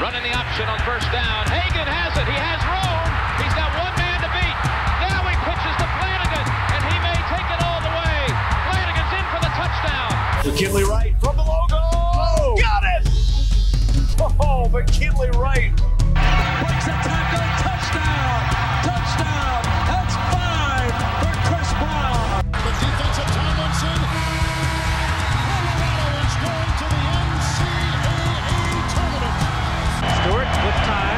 Running the option on first down. Hagan has it. He has room. He's got one man to beat. Now he pitches to Flanagan, and he may take it all the way. Flanagan's in for the touchdown. McKinley Wright from the logo. Oh, got it! Oh, McKinley Wright. Breaks a tackle. Touchdown. Touchdown. That's 5 for Chris Brown. The defensive Tomlinson. Colorado is going to the NCAA tournament. Stewart with time.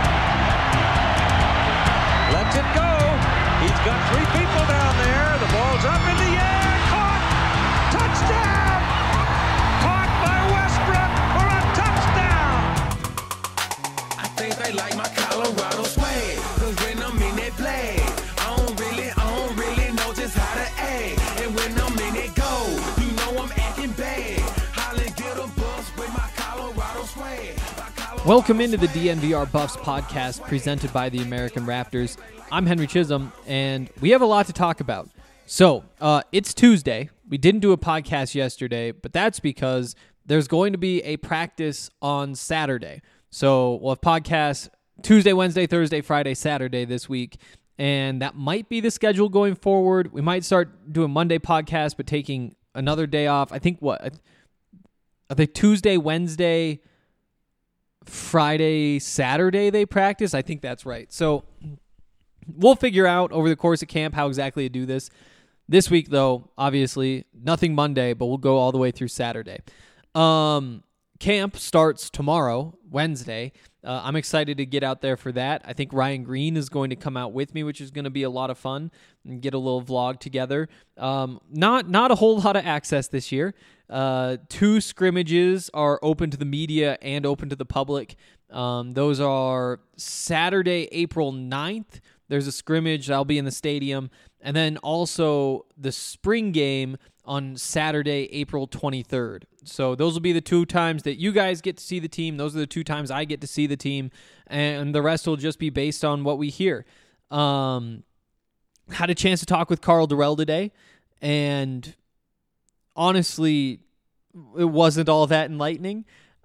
Lets it go. He's got 3 people down there. The ball's up in the air. Caught. Touchdown. Caught by Westbrook for a touchdown. I think they like my Colorado swag. Cause when I'm in that play, I don't really know just how to act. And when I'm in it go, you know I'm acting bad. Holly get a bus with my Colorado swag. Welcome into the DNVR Buffs podcast presented by the American Raptors. I'm Henry Chisholm, and we have a lot to talk about. So, it's Tuesday. We didn't do a podcast yesterday, but that's because there's going to be a practice on Saturday. So, we'll have podcasts Tuesday, Wednesday, Thursday, Friday, Saturday this week, and that might be the schedule going forward. We might start doing Monday podcast, but taking another day off. I think Tuesday, Wednesday, Friday, Saturday they practice. I think that's right. So we'll figure out over the course of camp how exactly to do this. This week, though, obviously, nothing Monday, but we'll go all the way through Saturday. Camp starts tomorrow, Wednesday. I'm excited to get out there for that. I think Ryan Green is going to come out with me, which is going to be a lot of fun, and get a little vlog together. Not a whole lot of access this year. 2 scrimmages are open to the media and open to the public. Those are Saturday, April 9th. There's a scrimmage that'll be in the stadium. And then also the spring game on Saturday, April 23rd. So those will be the 2 times that you guys get to see the team. Those are the 2 times I get to see the team. And the rest will just be based on what we hear. Had a chance to talk with Karl Dorrell today. And honestly, it wasn't all that enlightening.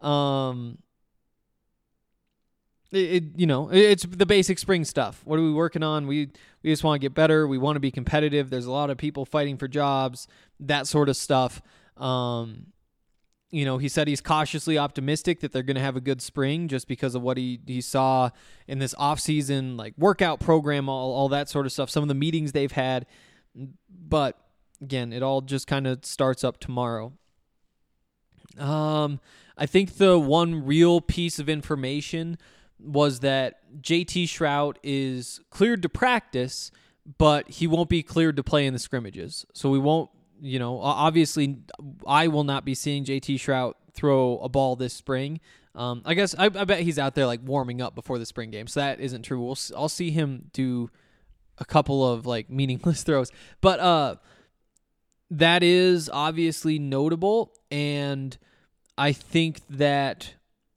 It's the basic spring stuff. What are we working on? We just want to get better. We want to be competitive. There's a lot of people fighting for jobs, that sort of stuff. He said he's cautiously optimistic that they're going to have a good spring just because of what he saw in this offseason, like workout program, all that sort of stuff, some of the meetings they've had. But again, it all just kind of starts up tomorrow. I think the one real piece of information was that JT Shrout is cleared to practice, but he won't be cleared to play in the scrimmages. So we won't, obviously I will not be seeing JT Shrout throw a ball this spring. I guess I bet he's out there like warming up before the spring game. So that isn't true. I'll see him do a couple of like meaningless throws, but that is obviously notable. And I think that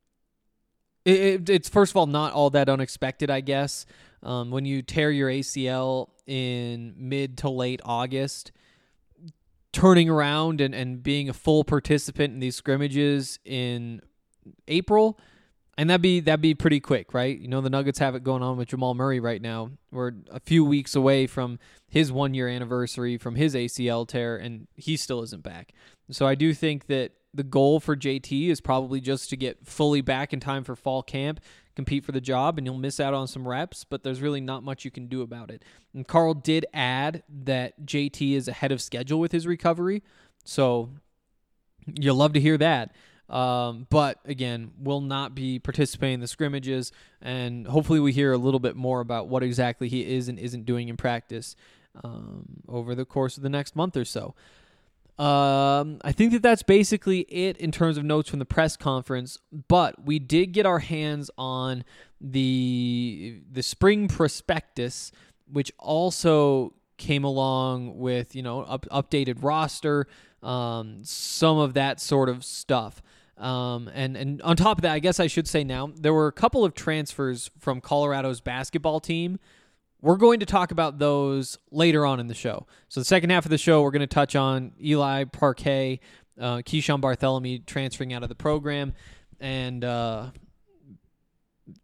it's first of all not all that unexpected, I guess. When you tear your ACL in mid to late August, turning around and being a full participant in these scrimmages in April, and that'd be pretty quick, right? The Nuggets have it going on with Jamal Murray right now. We're a few weeks away from his 1-year anniversary from his ACL tear, and he still isn't back. So I do think that the goal for JT is probably just to get fully back in time for fall camp, compete for the job, and you'll miss out on some reps, but there's really not much you can do about it. And Karl did add that JT is ahead of schedule with his recovery, so you'll love to hear that. But again, will not be participating in the scrimmages, and hopefully we hear a little bit more about what exactly he is and isn't doing in practice over the course of the next month or so. I think that's basically it in terms of notes from the press conference, but we did get our hands on the spring prospectus, which also came along with, updated roster, some of that sort of stuff. And on top of that, I guess I should say now, there were a couple of transfers from Colorado's basketball team. We're going to talk about those later on in the show. So the second half of the show, we're going to touch on Eli Parquet, Keyshawn Barthelemy transferring out of the program, and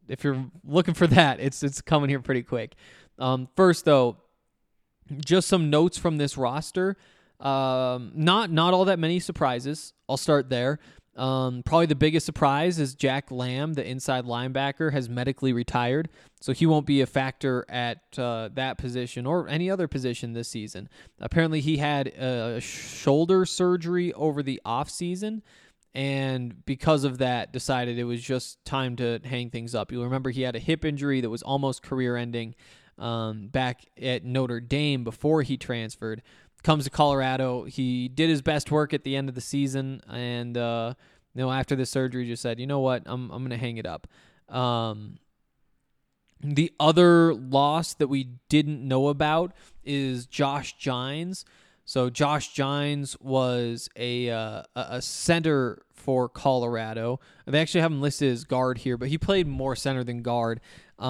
if you're looking for that, it's coming here pretty quick. First though, just some notes from this roster. Not all that many surprises. I'll start there. Probably the biggest surprise is Jack Lamb, the inside linebacker, has medically retired, so he won't be a factor at that position or any other position this season. Apparently, he had a shoulder surgery over the offseason, and because of that, decided it was just time to hang things up. You'll remember he had a hip injury that was almost career-ending back at Notre Dame before he transferred. Comes to Colorado. He did his best work at the end of the season, and after the surgery, just said, you know what, I'm going to hang it up. The other loss that we didn't know about is Josh Gines. So Josh Gines was a center for Colorado. They actually have him listed as guard here, but he played more center than guard.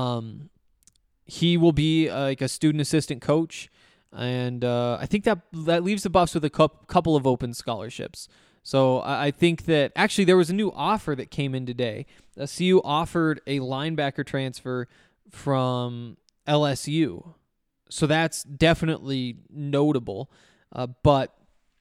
He will be like a student assistant coach. And I think that leaves the Buffs with a couple of open scholarships. So I think that actually there was a new offer that came in today. CU offered a linebacker transfer from LSU. So that's definitely notable. But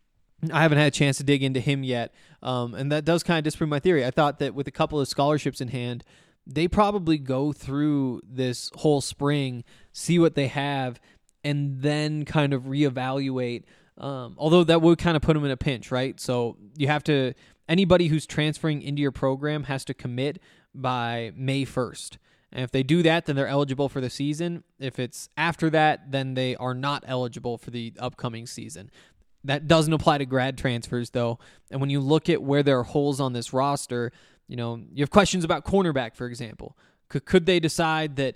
I haven't had a chance to dig into him yet. And that does kind of disprove my theory. I thought that with a couple of scholarships in hand, they probably go through this whole spring, see what they have, and then kind of reevaluate, although that would kind of put them in a pinch, right? So you have to, anybody who's transferring into your program has to commit by May 1st. And if they do that, then they're eligible for the season. If it's after that, then they are not eligible for the upcoming season. That doesn't apply to grad transfers, though. And when you look at where there are holes on this roster, you have questions about cornerback, for example. Could they decide that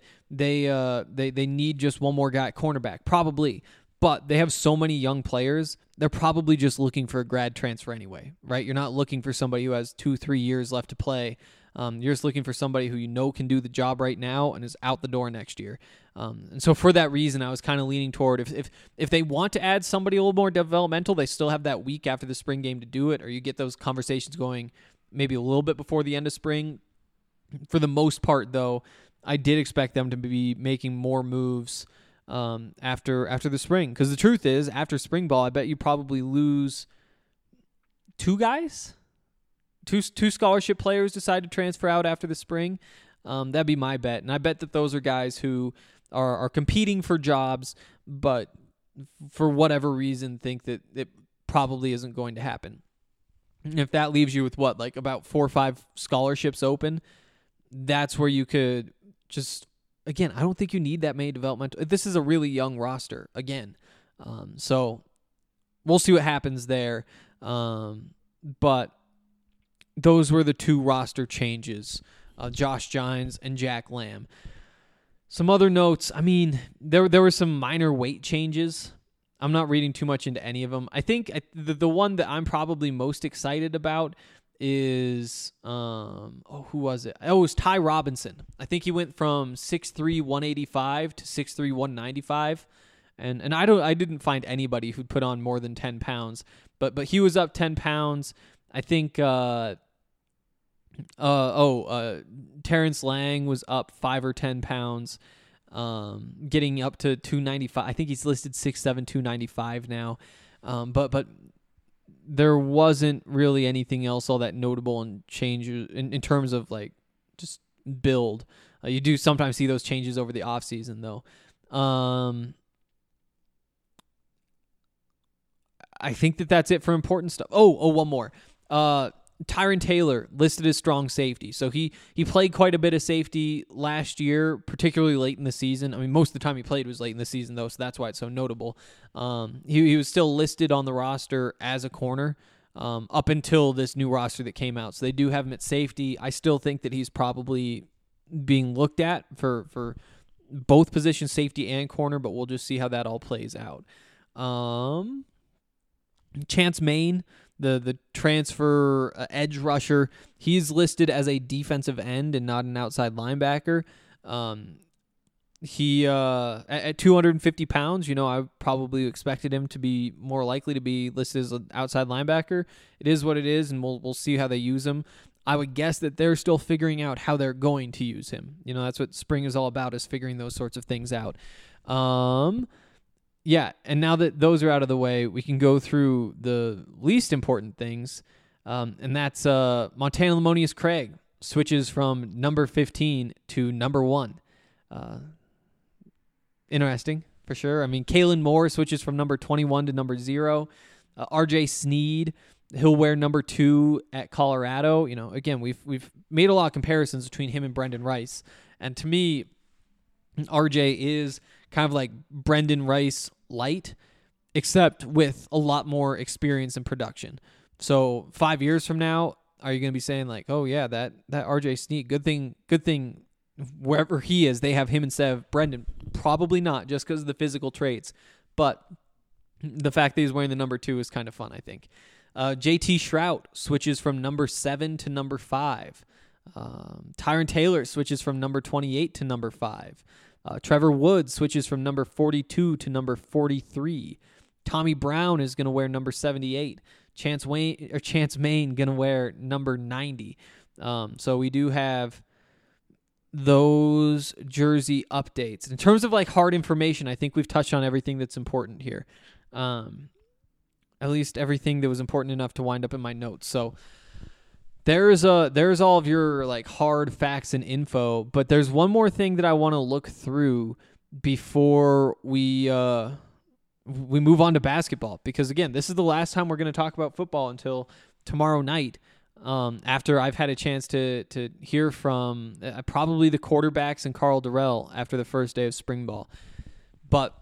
they need just one more guy at cornerback? Probably. But they have so many young players, they're probably just looking for a grad transfer anyway, right? You're not looking for somebody who has 2-3 years left to play. You're just looking for somebody who can do the job right now and is out the door next year. And so for that reason, I was kind of leaning toward if they want to add somebody a little more developmental, they still have that week after the spring game to do it, or you get those conversations going maybe a little bit before the end of spring. For the most part, though, I did expect them to be making more moves after the spring. Because the truth is, after spring ball, I bet you probably lose two guys. Two scholarship players decide to transfer out after the spring. That'd be my bet. And I bet that those are guys who are competing for jobs, but for whatever reason think that it probably isn't going to happen. And if that leaves you with about 4 or 5 scholarships open, that's where you could just, again, I don't think you need that many developmental. This is a really young roster, again. So we'll see what happens there. But those were the two roster changes, Josh Gines and Jack Lamb. Some other notes, there were some minor weight changes. I'm not reading too much into any of them. I think the one that I'm probably most excited about is who was it? Oh, it was Ty Robinson. I think he went from 6'3", 185 to 6'3", 195. And I didn't find anybody who'd put on more than 10 pounds, but he was up 10 pounds. I think Terrence Lang was up 5 or 10 pounds, getting up to 295. I think he's listed 6'7", 295 now. But there wasn't really anything else all that notable in changes in terms of just build. You do sometimes see those changes over the offseason, though. I think that's it for important stuff. Oh, one more. Tyron Taylor listed as strong safety. So he played quite a bit of safety last year, particularly late in the season. Most of the time he played was late in the season, though, so that's why it's so notable. He was still listed on the roster as a corner up until this new roster that came out. So they do have him at safety. I still think that he's probably being looked at for both positions, safety and corner, but we'll just see how that all plays out. Chance Main, the transfer edge rusher, he's listed as a defensive end and not an outside linebacker. He at 250 pounds, I probably expected him to be more likely to be listed as an outside linebacker. It is what it is, and we'll see how they use him. I would guess that they're still figuring out how they're going to use him. You know, that's what spring is all about, is figuring those sorts of things out. Yeah, and now that those are out of the way, we can go through the least important things, and that's Montana Lemonious Craig switches from number 15 to number 1. Interesting, for sure. I mean, Kalen Moore switches from number 21 to number 0. RJ Sneed, he'll wear number 2 at Colorado. You know, again, we've made a lot of comparisons between him and Brendan Rice, and to me, RJ is kind of like Brendan Rice light, except with a lot more experience in production. So 5 years from now, are you going to be saying like, oh yeah, that RJ Sneed, good thing wherever he is, they have him instead of Brendan? Probably not, just because of the physical traits. But the fact that he's wearing the number 2 is kind of fun, I think. JT Shrout switches from number 7 to number 5. Tyron Taylor switches from number 28 to number 5. Trevor Woods switches from number 42 to number 43. Tommy Brown is going to wear number 78. Chance Main going to wear number 90. So we do have those jersey updates. In terms of like hard information, I think we've touched on everything that's important here. At least everything that was important enough to wind up in my notes. So there's all of your like hard facts and info, but there's one more thing that I want to look through before we move on to basketball, because again, this is the last time we're going to talk about football until tomorrow night. After I've had a chance to hear from probably the quarterbacks and Carl Durrell after the first day of spring ball. But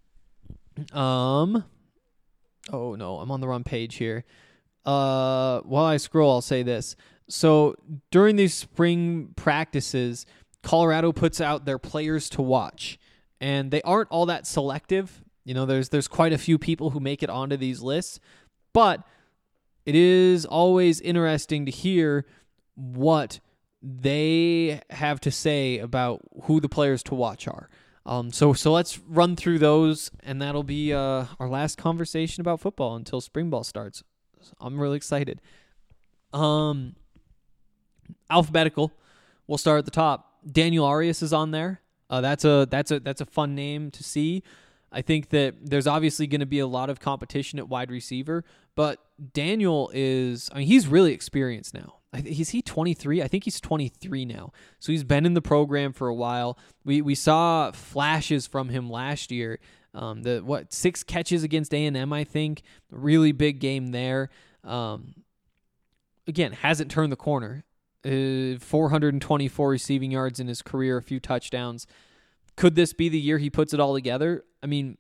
oh no, I'm on the wrong page here. While I scroll, I'll say this. So during these spring practices, Colorado puts out their players to watch, and they aren't all that selective. You know, there's quite a few people who make it onto these lists, but it is always interesting to hear what they have to say about who the players to watch are. So let's run through those, and that'll be our last conversation about football until spring ball starts. I'm really excited. Alphabetical. We'll start at the top. Daniel Arias is on there. That's a fun name to see. I think that there's obviously going to be a lot of competition at wide receiver, but Daniel he's really experienced now. Is he 23? I think he's 23 now. So he's been in the program for a while. We saw flashes from him last year. 6 catches against A&M, I think. Really big game there. Again, hasn't turned the corner. 424 receiving yards in his career, a few touchdowns. Could this be the year he puts it all together? I mean,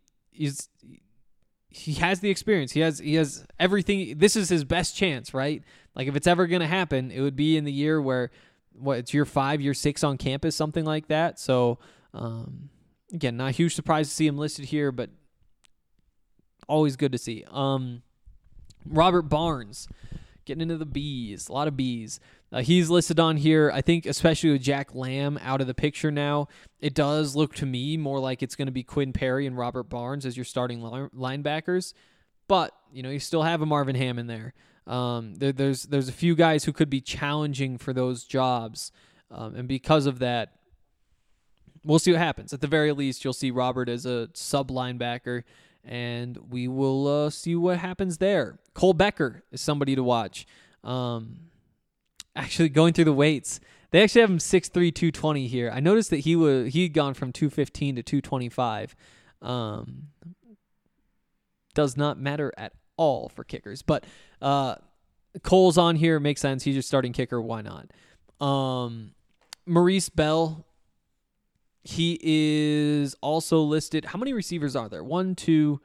he has the experience. He has everything. This is his best chance, right? Like if it's ever going to happen, it would be in the year where it's year 5, year 6 on campus, something like that. So again, not a huge surprise to see him listed here, but always good to see. Robert Barnes, getting into the B's, a lot of B's. He's listed on here, I think, especially with Jack Lamb out of the picture now. It does look to me more like it's going to be Quinn Perry and Robert Barnes as your starting linebackers. But, you still have a Marvin Hammond there. There's a few guys who could be challenging for those jobs. And because of that, we'll see what happens. At the very least, you'll see Robert as a sub-linebacker, and we will see what happens there. Cole Becker is somebody to watch. Actually, going through the weights, they actually have him 6'3", 220 here. I noticed that he'd gone from 215 to 225. Does not matter at all for kickers. But Cole's on here. Makes sense. He's your starting kicker. Why not? Maurice Bell, he is also listed. How many receivers are there? 1, 2,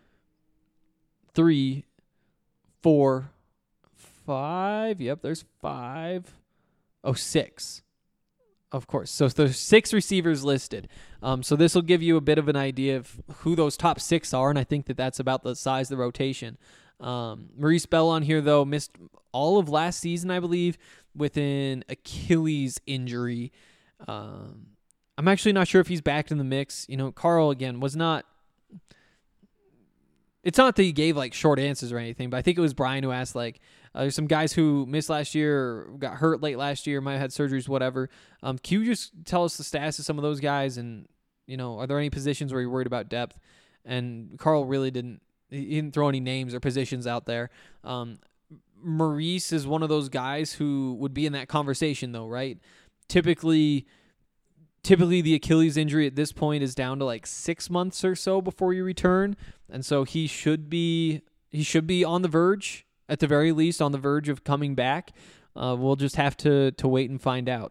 3, 4, 5. Yep, there's 5. Oh, 6. Of course. So there's 6 receivers listed. So this will give you a bit of an idea of who those top 6 are, and I think that that's about the size of the rotation. Maurice Bell on here, though, missed all of last season, I believe, with an Achilles injury. I'm actually not sure if he's back in the mix. Carl, again, was not... It's not that he gave, short answers or anything, but I think it was Brian who asked, There's some guys who missed last year or got hurt late last year, might have had surgeries, whatever. Can you just tell us the status of some of those guys? And, are there any positions where you're worried about depth? And Carl really didn't throw any names or positions out there. Maurice is one of those guys who would be in that conversation, though, right? Typically the Achilles injury at this point is down to like 6 months or so before you return, and so he should be on the verge, at the very least, on the verge of coming back. We'll just have to wait and find out.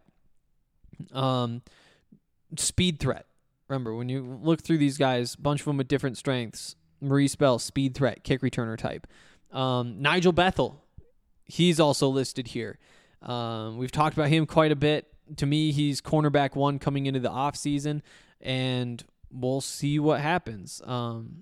Speed threat. Remember, when you look through these guys, a bunch of them with different strengths. Maurice Bell, speed threat, kick returner type. Nigel Bethel, he's also listed here. We've talked about him quite a bit. To me, he's cornerback 1 coming into the offseason, and we'll see what happens. On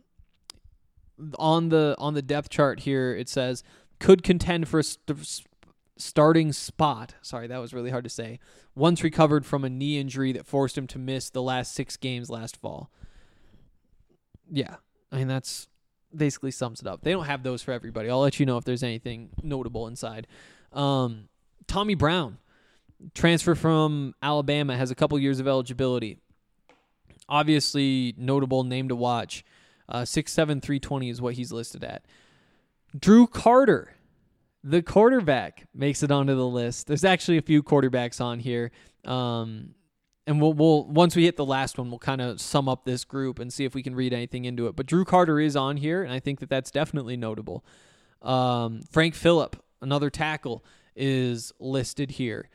the depth chart here, it says could contend for a starting spot. Sorry, that was really hard to say. Once recovered from a knee injury that forced him to miss the last 6 games last fall. Yeah, I mean, that's basically sums it up. They don't have those for everybody. I'll let you know if there's anything notable inside. Tommy Brown, transfer from Alabama, has a couple years of eligibility. Obviously, notable name to watch. 6'7", 320 is what he's listed at. Drew Carter, the quarterback, makes it onto the list. There's actually a few quarterbacks on here. And we'll once we hit the last one, we'll kind of sum up this group and see if we can read anything into it. But Drew Carter is on here, and I think that that's definitely notable. Frank Phillip, another tackle, is listed here.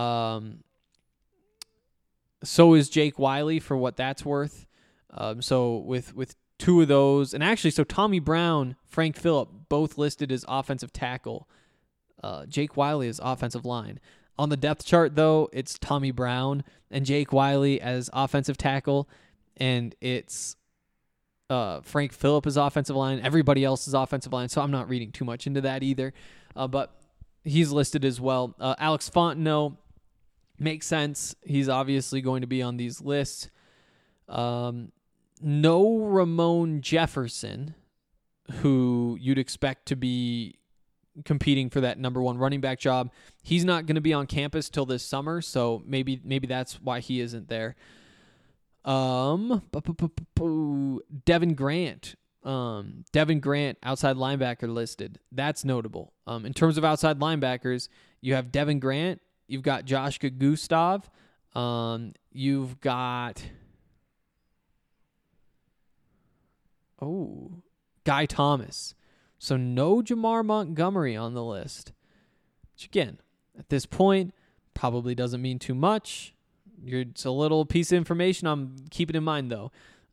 So is Jake Wiley, for what that's worth. So with 2 of those, and actually, so Tommy Brown, Frank Phillip, both listed as offensive tackle. Jake Wiley is offensive line. On the depth chart, though, it's Tommy Brown and Jake Wiley as offensive tackle, and it's Frank Phillip is offensive line. Everybody else is offensive line, so I'm not reading too much into that either. But he's listed as well. Alex Fontenot makes sense. He's obviously going to be on these lists. No Ramon Jefferson, who you'd expect to be competing for that number 1 running back job. He's not going to be on campus till this summer, so maybe that's why he isn't there. Devin Grant. Devin Grant, outside linebacker, listed. That's notable. In terms of outside linebackers, you have Devin Grant, you've got Joshua Gustav, you've got Guy Thomas. So no Jamar Montgomery on the list, which again, at this point, probably doesn't mean too much. It's a little piece of information I'm keeping in mind, though.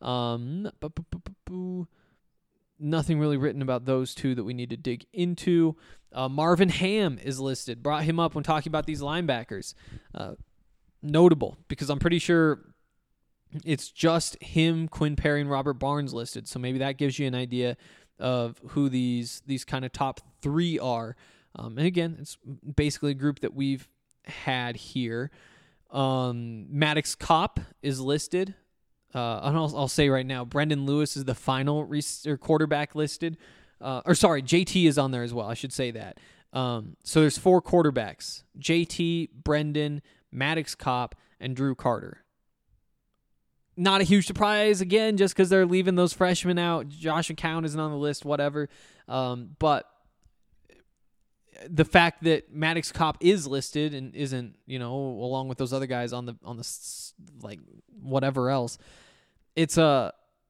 Nothing really written about those 2 that we need to dig into. Marvin Ham is listed. Brought him up when talking about these linebackers. Notable, because I'm pretty sure it's just him, Quinn Perry, and Robert Barnes listed. So maybe that gives you an idea of who these kind of top 3 are. And again, it's basically a group that we've had here. Maddox Kopp is listed. And I'll say right now, Brendan Lewis is the final quarterback listed. JT is on there as well. I should say that. So there's 4 quarterbacks: JT, Brendan, Maddox Kopp, and Drew Carter. Not a huge surprise, again, just because they're leaving those freshmen out. Josh McCown isn't on the list, whatever. But the fact that Maddox Kopp is listed and isn't, along with those other guys on the like whatever else, it kind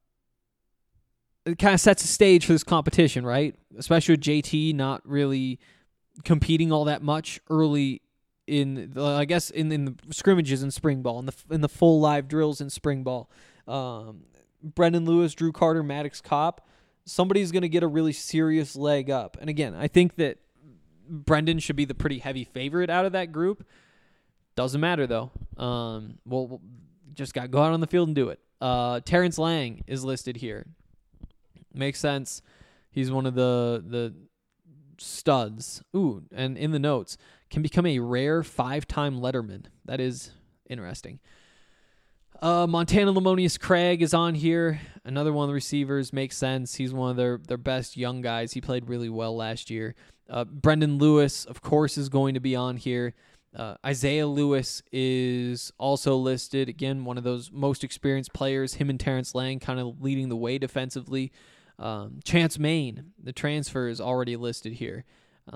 of sets a stage for this competition, right? Especially with JT not really competing all that much early in the scrimmages in spring ball, in the full live drills in spring ball. Brendan Lewis, Drew Carter, Maddox Kopp, somebody's going to get a really serious leg up. And again, I think that Brendan should be the pretty heavy favorite out of that group. Doesn't matter, though. We'll just got to go out on the field and do it. Terrence Lang is listed here. Makes sense. He's one of the studs. Ooh, and in the notes, can become a rare 5-time letterman. That is interesting. Montana Lamonius Craig is on here. Another one of the receivers. Makes sense. He's one of their best young guys. He played really well last year. Brendan Lewis, of course, is going to be on here. Isaiah Lewis is also listed. Again, one of those most experienced players. Him and Terrence Lang kind of leading the way defensively. Chance Main, the transfer, is already listed here.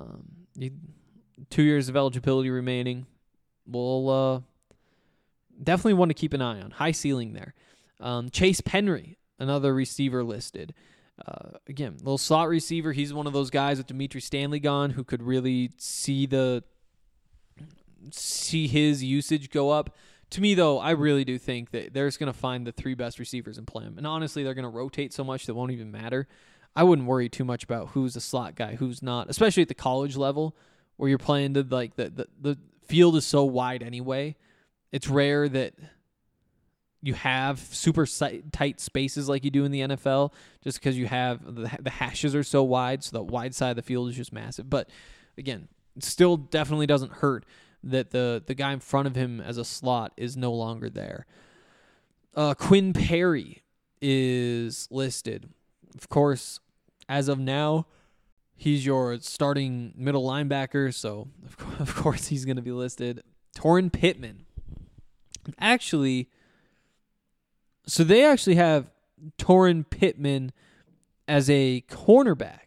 2 years of eligibility remaining. We'll definitely want to keep an eye on. High ceiling there. Chase Penry, another receiver listed. Again, little slot receiver. He's one of those guys with Dimitri Stanley gone who could really see his usage go up. To me, though, I really do think that they're just going to find the 3 best receivers and play them. And honestly, they're going to rotate so much that won't even matter. I wouldn't worry too much about who's a slot guy, who's not, especially at the college level where you're playing the field is so wide anyway. It's rare that you have super tight spaces like you do in the NFL just because you have the hashes are so wide, so the wide side of the field is just massive. But again, it still definitely doesn't hurt that the guy in front of him as a slot is no longer there. Quinn Perry is listed. Of course, as of now, he's your starting middle linebacker, so of course he's going to be listed. Torrin Pittman. So they actually have Torrin Pittman as a cornerback.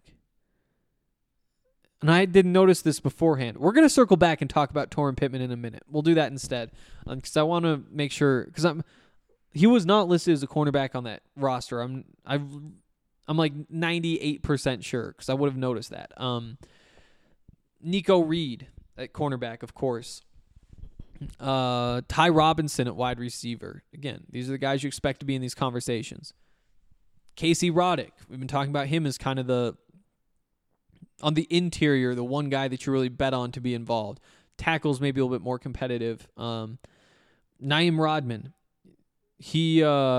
And I didn't notice this beforehand. We're going to circle back and talk about Torrin Pittman in a minute. We'll do that instead because I want to make sure, because he was not listed as a cornerback on that roster. I'm like 98% sure because I would have noticed that. Nico Reed at cornerback, of course. Ty Robinson at wide receiver. Again, these are the guys you expect to be in these conversations. Casey Roddick. We've been talking about him as kind of on the interior, the one guy that you really bet on to be involved. Tackles maybe a little bit more competitive. Naeem Rodman. He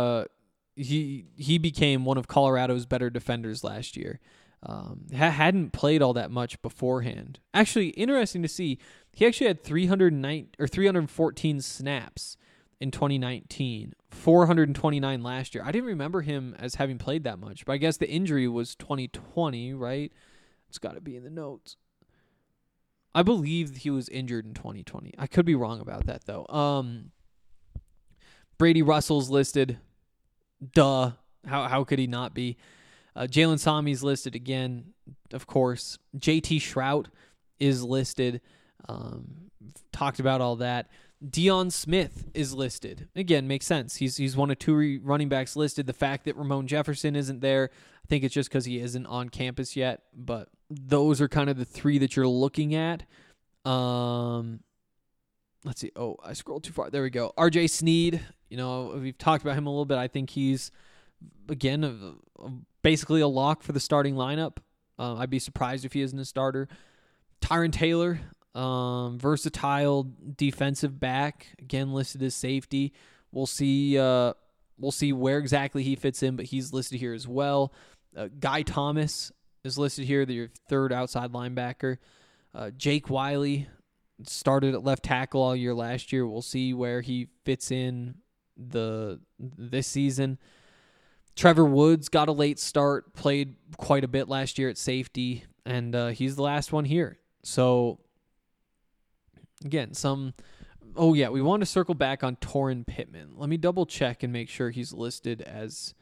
became one of Colorado's better defenders last year. Hadn't played all that much beforehand. Actually, interesting to see. He actually had 314 snaps in 2019, 429 last year. I didn't remember him as having played that much, but I guess the injury was 2020, right? It's got to be in the notes. I believe he was injured in 2020. I could be wrong about that, though. Brady Russell's listed. Duh. How could he not be? Jalen Sami's listed again, of course. JT Shrout is listed. Talked about all that. Deion Smith is listed. Again, makes sense. He's one of 2 running backs listed. The fact that Ramon Jefferson isn't there, I think it's just because he isn't on campus yet. But those are kind of the 3 that you're looking at. Let's see. Oh, I scrolled too far. There we go. RJ Sneed. We've talked about him a little bit. I think he's, again, basically a lock for the starting lineup. I'd be surprised if he isn't a starter. Tyron Taylor, versatile defensive back, again listed as safety. We'll see where exactly he fits in, but he's listed here as well. Guy Thomas is listed here, your 3rd outside linebacker. Jake Wiley started at left tackle all year last year. We'll see where he fits in this season. Trevor Woods got a late start, played quite a bit last year at safety, and he's the last one here. So, again, we want to circle back on Torrin Pittman. Let me double check and make sure he's listed as,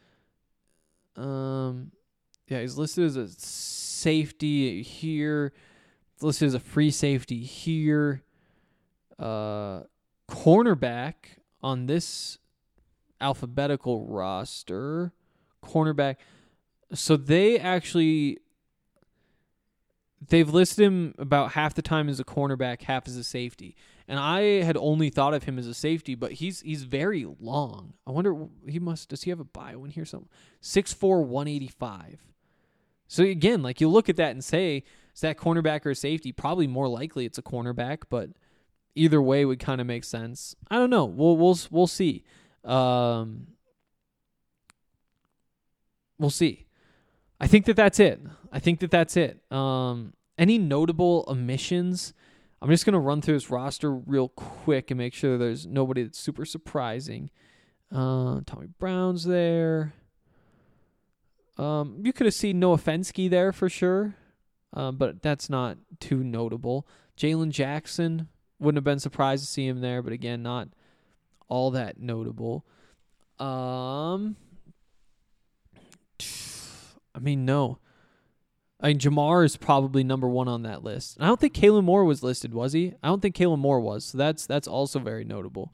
he's listed as a safety here. He's listed as a free safety here. Cornerback on this alphabetical roster. Cornerback. So they've listed him about half the time as a cornerback, half as a safety. And I had only thought of him as a safety, but he's very long. I wonder, does he have a bio in here somewhere? 6'4", 185. So again, like you look at that and say, is that cornerback or a safety? Probably more likely it's a cornerback, but either way would kind of make sense. I don't know. We'll see. We'll see. I think that's it. Any notable omissions? I'm just going to run through this roster real quick and make sure there's nobody that's super surprising. Tommy Brown's there. You could have seen Noah Fensky there for sure, but that's not too notable. Jalen Jackson, wouldn't have been surprised to see him there, but again, not all that notable. No. Jamar is probably number one on that list. And I don't think Kalen Moore was listed, was he? I don't think Kalen Moore was, so that's also very notable.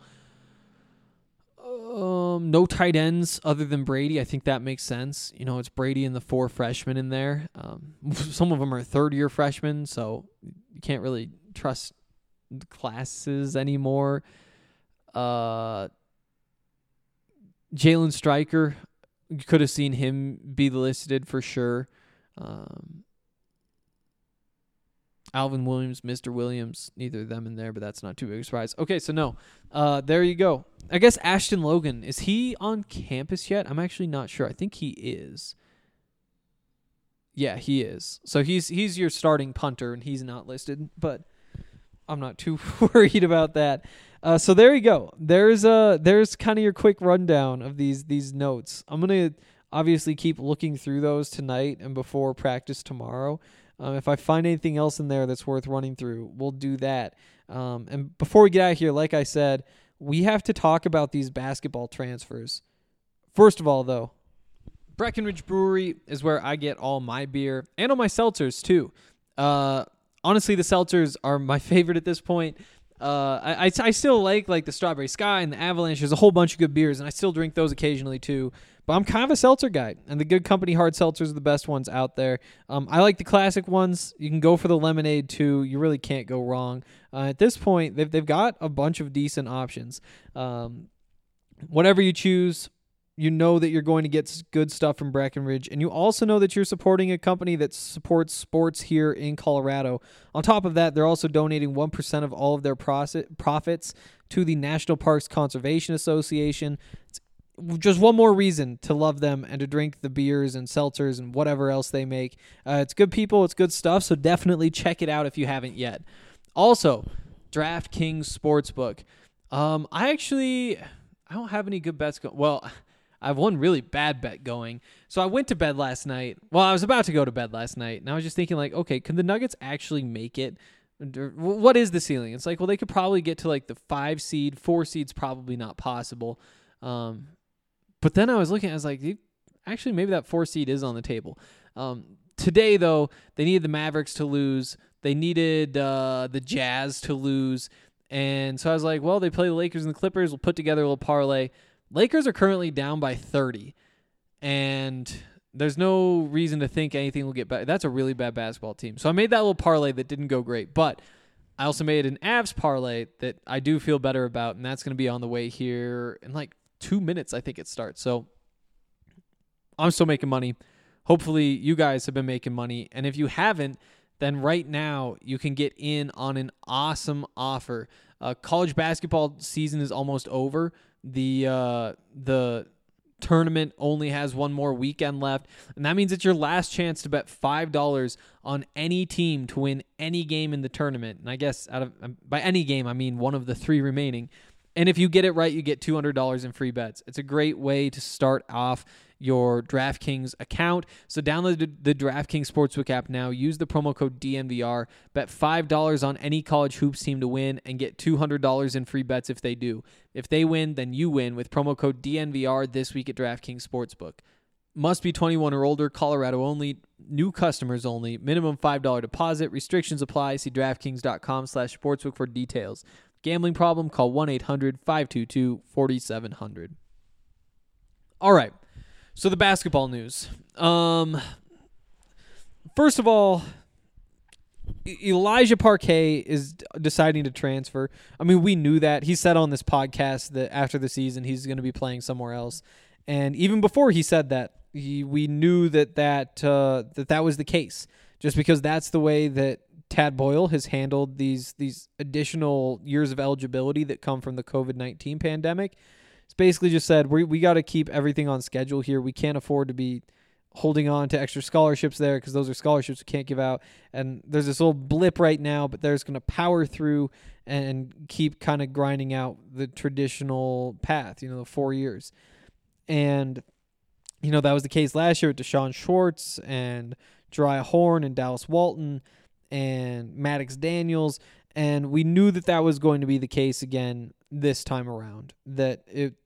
No tight ends other than Brady. I think that makes sense. It's Brady and the 4 freshmen in there. Some of them are third-year freshmen, so you can't really trust the classes anymore. Jalen Stryker, you could have seen him be listed for sure. Alvin Williams, Mr. Williams, neither of them in there, but that's not too big a surprise. Okay, so no. There you go. I guess Ashton Logan, is he on campus yet? I'm actually not sure. I think he is. Yeah, he is. So he's your starting punter, and he's not listed, but I'm not too worried about that. So there you go. There's kind of your quick rundown of these notes. I'm going to obviously keep looking through those tonight and before practice tomorrow. If I find anything else in there that's worth running through, we'll do that. And before we get out of here, like I said, we have to talk about these basketball transfers. First of all, though, Breckenridge Brewery is where I get all my beer and all my seltzers, too. Honestly, the seltzers are my favorite at this point. I still like the Strawberry Sky and the Avalanche. There's a whole bunch of good beers, and I still drink those occasionally, too. But I'm kind of a seltzer guy, and the Good Company hard seltzers are the best ones out there. I like the classic ones. You can go for the lemonade, too. You really can't go wrong. At this point, they've got a bunch of decent options. Whatever you choose, you know that you're going to get good stuff from Breckenridge, and you also know that you're supporting a company that supports sports here in Colorado. On top of that, they're also donating 1% of all of their profits to the National Parks Conservation Association. It's just one more reason to love them and to drink the beers and seltzers and whatever else they make. It's good people. It's good stuff, so definitely check it out if you haven't yet. Also, DraftKings Sportsbook. I don't have any good bets going. Well, I have one really bad bet going. So I went to bed last night. Well, I was about to go to bed last night, and I was just thinking, okay, can the Nuggets actually make it? What is the ceiling? It's well, they could probably get to the 5 seed. 4 seed's probably not possible. But then I was looking, I was like, actually, maybe that 4 seed is on the table. Today, though, they needed the Mavericks to lose. They needed the Jazz to lose. And so I was like, well, they play the Lakers and the Clippers. We'll put together a little parlay. Lakers are currently down by 30. And there's no reason to think anything will get better. That's a really bad basketball team. So I made that little parlay that didn't go great. But I also made an Avs parlay that I do feel better about, and that's going to be on the way here in 2 minutes, I think it starts. So I'm still making money. Hopefully you guys have been making money. And if you haven't, then right now you can get in on an awesome offer. College basketball season is almost over. The tournament only has one more weekend left, and that means it's your last chance to bet $5 on any team to win any game in the tournament. And I guess by any game, I mean one of the 3 remaining. And if you get it right, you get $200 in free bets. It's a great way to start off your DraftKings account. So download the DraftKings Sportsbook app now. Use the promo code DNVR. Bet $5 on any college hoops team to win and get $200 in free bets if they do. If they win, then you win with promo code DNVR this week at DraftKings Sportsbook. Must be 21 or older, Colorado only, new customers only, minimum $5 deposit. Restrictions apply. See DraftKings.com/sportsbook for details. Gambling problem? Call 1-800-522-4700. All right. So the basketball news. First of all, Elijah Parquet is deciding to transfer. I mean, we knew that. He said on this podcast that after the season he's going to be playing somewhere else. And even before he said that, we knew that was the case, just because that's the way that Tad Boyle has handled these additional years of eligibility that come from the COVID-19 pandemic. It's basically just said we got to keep everything on schedule here. We can't afford to be holding on to extra scholarships there because those are scholarships we can't give out. And there's this little blip right now, but they're just going to power through and keep kind of grinding out the traditional path, the 4 years. And, that was the case last year with Deshaun Schwartz and Jariah Horn and Dallas Walton and Maddox Daniels. And we knew that was going to be the case again this time around, that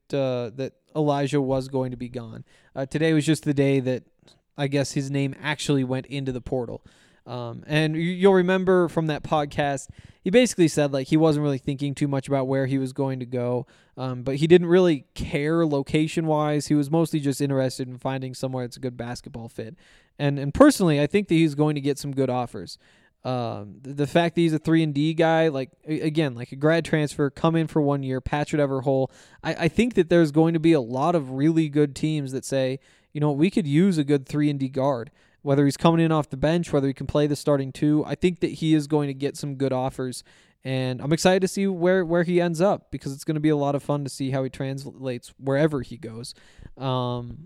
Elijah was going to be gone. Today was just the day that I guess his name actually went into the portal. And you'll remember from that podcast, he basically said he wasn't really thinking too much about where he was going to go, but he didn't really care location-wise. He was mostly just interested in finding somewhere that's a good basketball fit. And personally, I think that he's going to get some good offers. The fact that he's a 3-and-D guy, again, a grad transfer, come in for 1 year, patch whatever hole. I think that there's going to be a lot of really good teams that say, we could use a good 3-and-D guard, whether he's coming in off the bench, whether he can play the starting 2. I think that he is going to get some good offers, and I'm excited to see where he ends up, because it's going to be a lot of fun to see how he translates wherever he goes. Keyshawn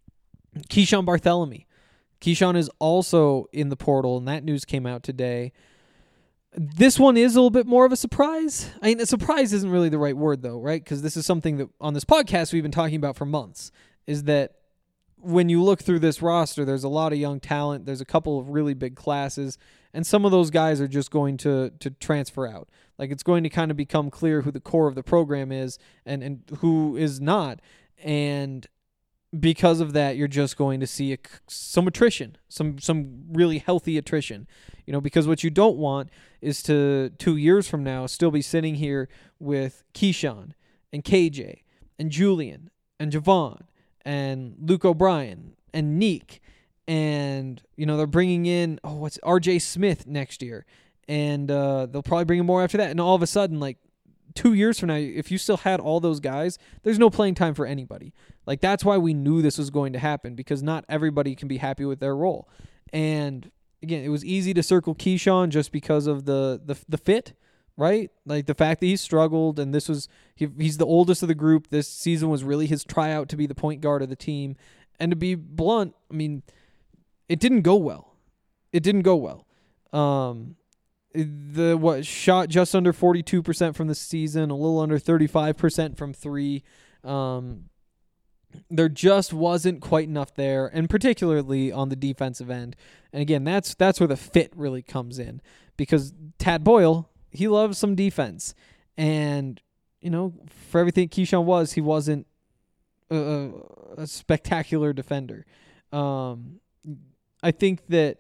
Barthélemy. Keyshawn is also in the portal, and that news came out today. This one is a little bit more of a surprise. I mean, a surprise isn't really the right word, though, right? Because this is something that on this podcast we've been talking about for months, is that when you look through this roster, there's a lot of young talent. There's a couple of really big classes, and some of those guys are just going to transfer out. It's going to kind of become clear who the core of the program is and who is not. And because of that, you're just going to see some attrition, some really healthy attrition, because what you don't want is to 2 years from now still be sitting here with Keyshawn and KJ and Julian and Javon and Luke O'Brien and Neek, and they're bringing in what's RJ Smith next year, and they'll probably bring in more after that, and all of a sudden 2 years from now, if you still had all those guys, there's no playing time for anybody. That's why we knew this was going to happen, because not everybody can be happy with their role. And again, it was easy to circle Keyshawn just because of the fit, right? The fact that he struggled, and he's the oldest of the group. This season was really his tryout to be the point guard of the team. And to be blunt, I mean, it didn't go well. Shot just under 42% from the season, a little under 35% from 3. There just wasn't quite enough there, and particularly on the defensive end. And again, that's where the fit really comes in, because Tad Boyle, he loves some defense, and for everything Keyshawn was, he wasn't a spectacular defender. I think that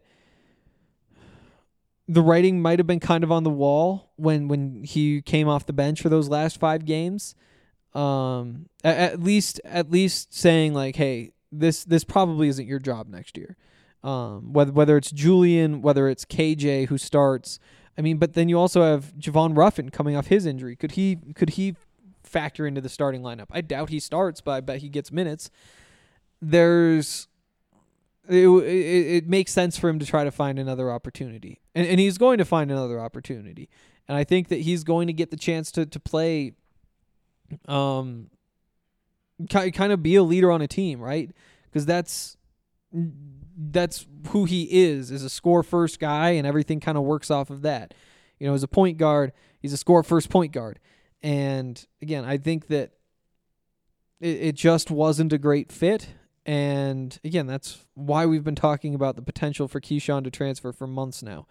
the writing might have been kind of on the wall when he came off the bench for those last 5 games. At least saying hey, this probably isn't your job next year. Whether it's Julian, whether it's KJ who starts. I mean, but then you also have Javon Ruffin coming off his injury. Could he factor into the starting lineup? I doubt he starts, but I bet he gets minutes. It makes sense for him to try to find another opportunity. And he's going to find another opportunity. And I think that he's going to get the chance to play, kind of be a leader on a team, right? Because that's who he is a score-first guy, and everything kind of works off of that. As a point guard, he's a score-first point guard. And, again, I think that it just wasn't a great fit. And again, that's why we've been talking about the potential for Keyshawn to transfer for months now.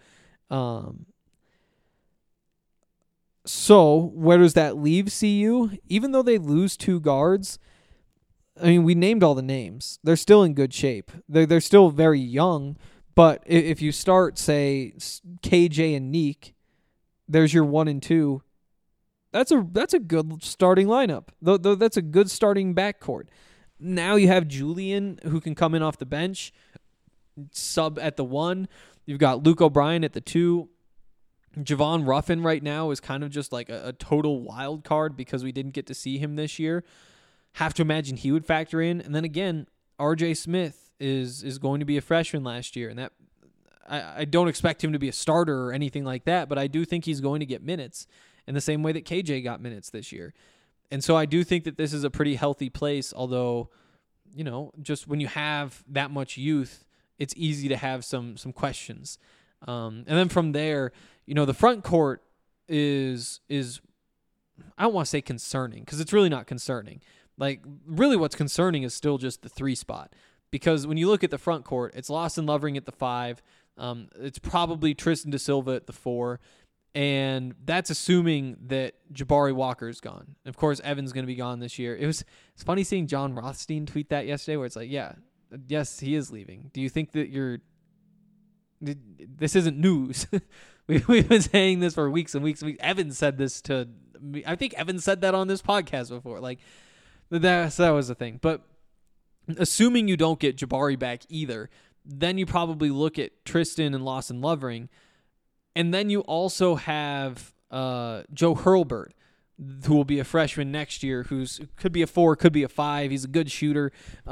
So where does that leave CU? Even though they lose 2 guards, I mean, we named all the names. They're still in good shape. They're still very young, but if you start, say, KJ and Neek, there's your 1 and 2. That's a good starting lineup. That's a good starting backcourt. Now you have Julian, who can come in off the bench, sub at the 1. You've got Luke O'Brien at the 2. Javon Ruffin right now is kind of just a total wild card because we didn't get to see him this year. Have to imagine he would factor in. And then again, RJ Smith is going to be a freshman last year, and that I don't expect him to be a starter or anything like that, but I do think he's going to get minutes in the same way that KJ got minutes this year. And so I do think that this is a pretty healthy place, although just when you have that much youth, it's easy to have some questions. And then from there, the front court is I don't want to say concerning, because it's really not concerning. Like, really what's concerning is still just the 3 spot. Because when you look at the front court, it's Lawson Lovering at the 5. It's probably Tristan da Silva at the 4. And that's assuming that Jabari Walker's gone. Of course, Evan's going to be gone this year. It's funny seeing John Rothstein tweet that yesterday, where it's like, yes, he is leaving. Do you think that this isn't news? We've been saying this for weeks and weeks and weeks. Evan said this to me. I think Evan said that on this podcast before. Like, that was the thing. But assuming you don't get Jabari back either, then you probably look at Tristan and Lawson Lovering. And then you also have Joe Hurlburt, who will be a freshman next year, could be a 4, could be a 5. He's a good shooter.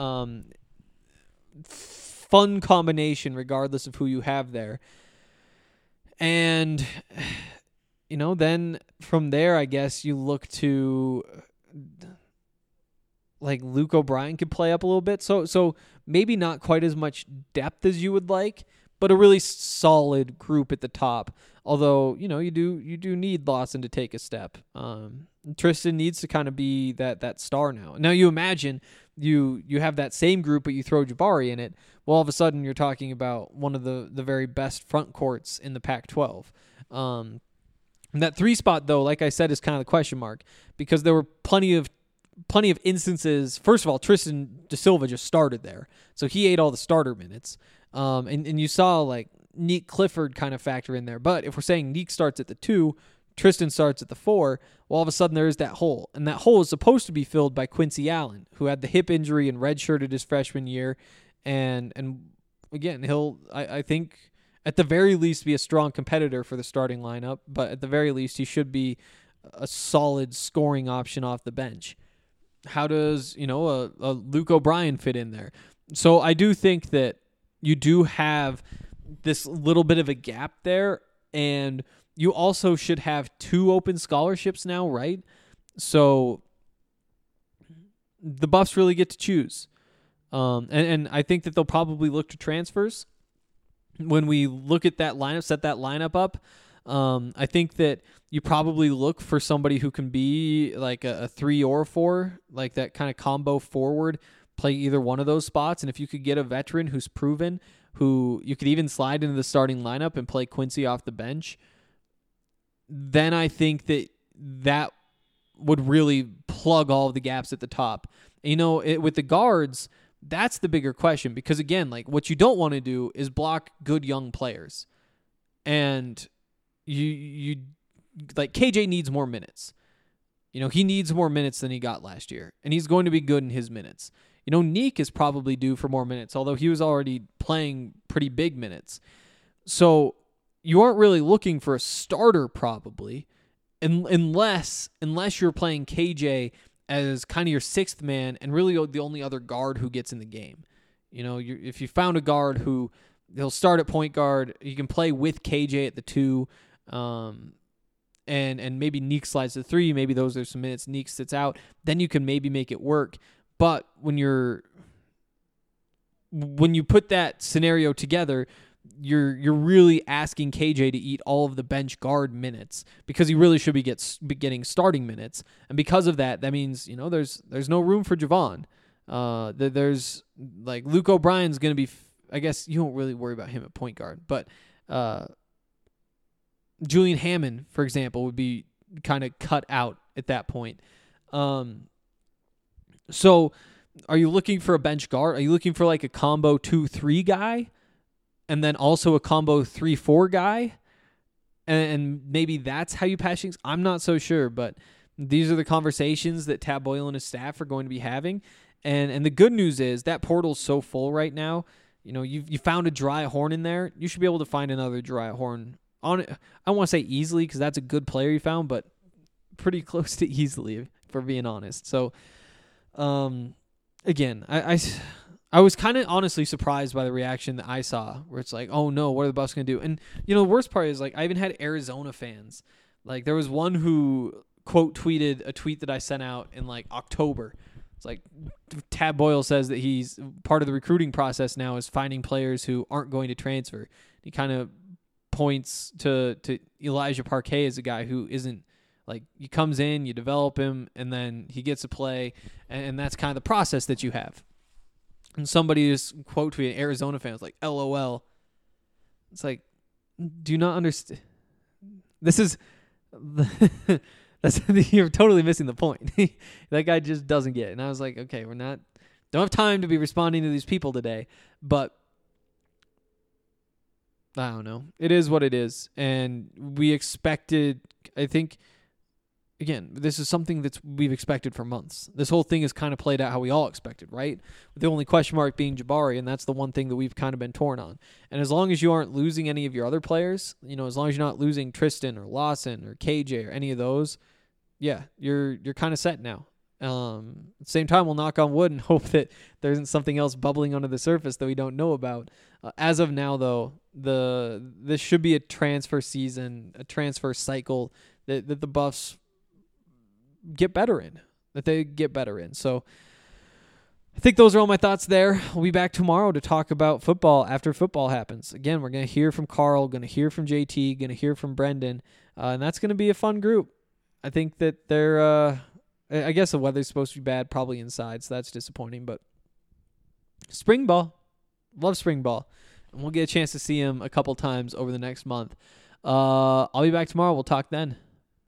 Fun combination regardless of who you have there. And, then from there, I guess you look to, like, Luke O'Brien could play up a little bit. So maybe not quite as much depth as you would like, but a really solid group at the top. Although, you do need Lawson to take a step. Tristan needs to kind of be that star now. Now you imagine you have that same group, but you throw Jabari in it. Well, all of a sudden you're talking about one of the very best front courts in the Pac-12. That 3 spot, though, like I said, is kind of the question mark, because there were plenty of instances. First of all, Tristan da Silva just started there, so he ate all the starter minutes. And you saw, like, Neek Clifford kind of factor in there. But if we're saying Neek starts at the 2, Tristan starts at the 4, well, all of a sudden there is that hole. And that hole is supposed to be filled by Quincy Allen, who had the hip injury and redshirted his freshman year. And again, he'll, I think, at the very least be a strong competitor for the starting lineup. But at the very least, he should be a solid scoring option off the bench. How does, a Luke O'Brien fit in there? So I do think that you do have this little bit of a gap there, and you also should have 2 open scholarships now, right? So the Buffs really get to choose. And I think that they'll probably look to transfers. When we look at that lineup, set that lineup up, I think that you probably look for somebody who can be like a 3 or a 4, like that kind of combo forward, play either one of those spots. And if you could get a veteran who's proven, who you could even slide into the starting lineup and play Quincy off the bench, then I think that would really plug all of the gaps at the top. With the guards, that's the bigger question, because again, like, what you don't want to do is block good young players. And you like, KJ needs more minutes. He needs more minutes than he got last year, and he's going to be good in his minutes. Neek is probably due for more minutes, although he was already playing pretty big minutes. So you aren't really looking for a starter probably, unless you're playing KJ as kind of your 6th man and really the only other guard who gets in the game. If you found a guard who he'll start at point guard, you can play with KJ at the 2, and maybe Neek slides to 3. Maybe those are some minutes Neek sits out. Then you can maybe make it work. But when you put that scenario together, you're really asking KJ to eat all of the bench guard minutes, because he really should be getting starting minutes. And because of that means, there's no room for Javon. There's, like, Luke O'Brien's going to be, I guess you don't really worry about him at point guard, but Julian Hammond, for example, would be kind of cut out at that point. So are you looking for a bench guard? Are you looking for like a combo 2-3 guy and then also a combo 3-4 guy? And maybe that's how you patch things? I'm not so sure, but these are the conversations that Tad Boyle and his staff are going to be having. And the good news is that portal's so full right now. You found a Jariah Horn in there. You should be able to find another Jariah Horn on it. I don't want to say easily, because that's a good player you found, but pretty close to easily, for being honest. So, again, I was kind of honestly surprised by the reaction that I saw, where it's like, oh no, what are the Buffs going to do? And, the worst part is, like, I even had Arizona fans. Like, there was one who quote tweeted a tweet that I sent out in like October, It's like Tab Boyle says that he's part of the recruiting process now is finding players who aren't going to transfer. He kind of points to Elijah Parquet as a guy who isn't like, he comes in, you develop him, and then he gets to play, and that's kind of the process that you have. And somebody just quote tweeted, Arizona fans like, LOL. It's like, do you not understand? This is you're totally missing the point. That guy just doesn't get it. And I was like, okay, don't have time to be responding to these people today, but I don't know. It is what it is. And we expected, I think, again, this is something that we've expected for months. This whole thing has kind of played out how we all expected, right? With the only question mark being Jabari, and that's the one thing that we've kind of been torn on. And as long as you aren't losing any of your other players, as long as you're not losing Tristan or Lawson or KJ or any of those, yeah, you're kind of set now. At the same time, we'll knock on wood and hope that there isn't something else bubbling under the surface that we don't know about. As of now, though, this should be a transfer season, a transfer cycle that the Buffs get better in, So I think those are all my thoughts there. We'll be back tomorrow to talk about football after football happens. Again, we're going to hear from Carl, going to hear from JT, going to hear from Brendan, and that's going to be a fun group. I think that they're, I guess the weather's supposed to be bad, probably inside, so that's disappointing, but spring ball. Love spring ball. And we'll get a chance to see him a couple times over the next month. I'll be back tomorrow. We'll talk then.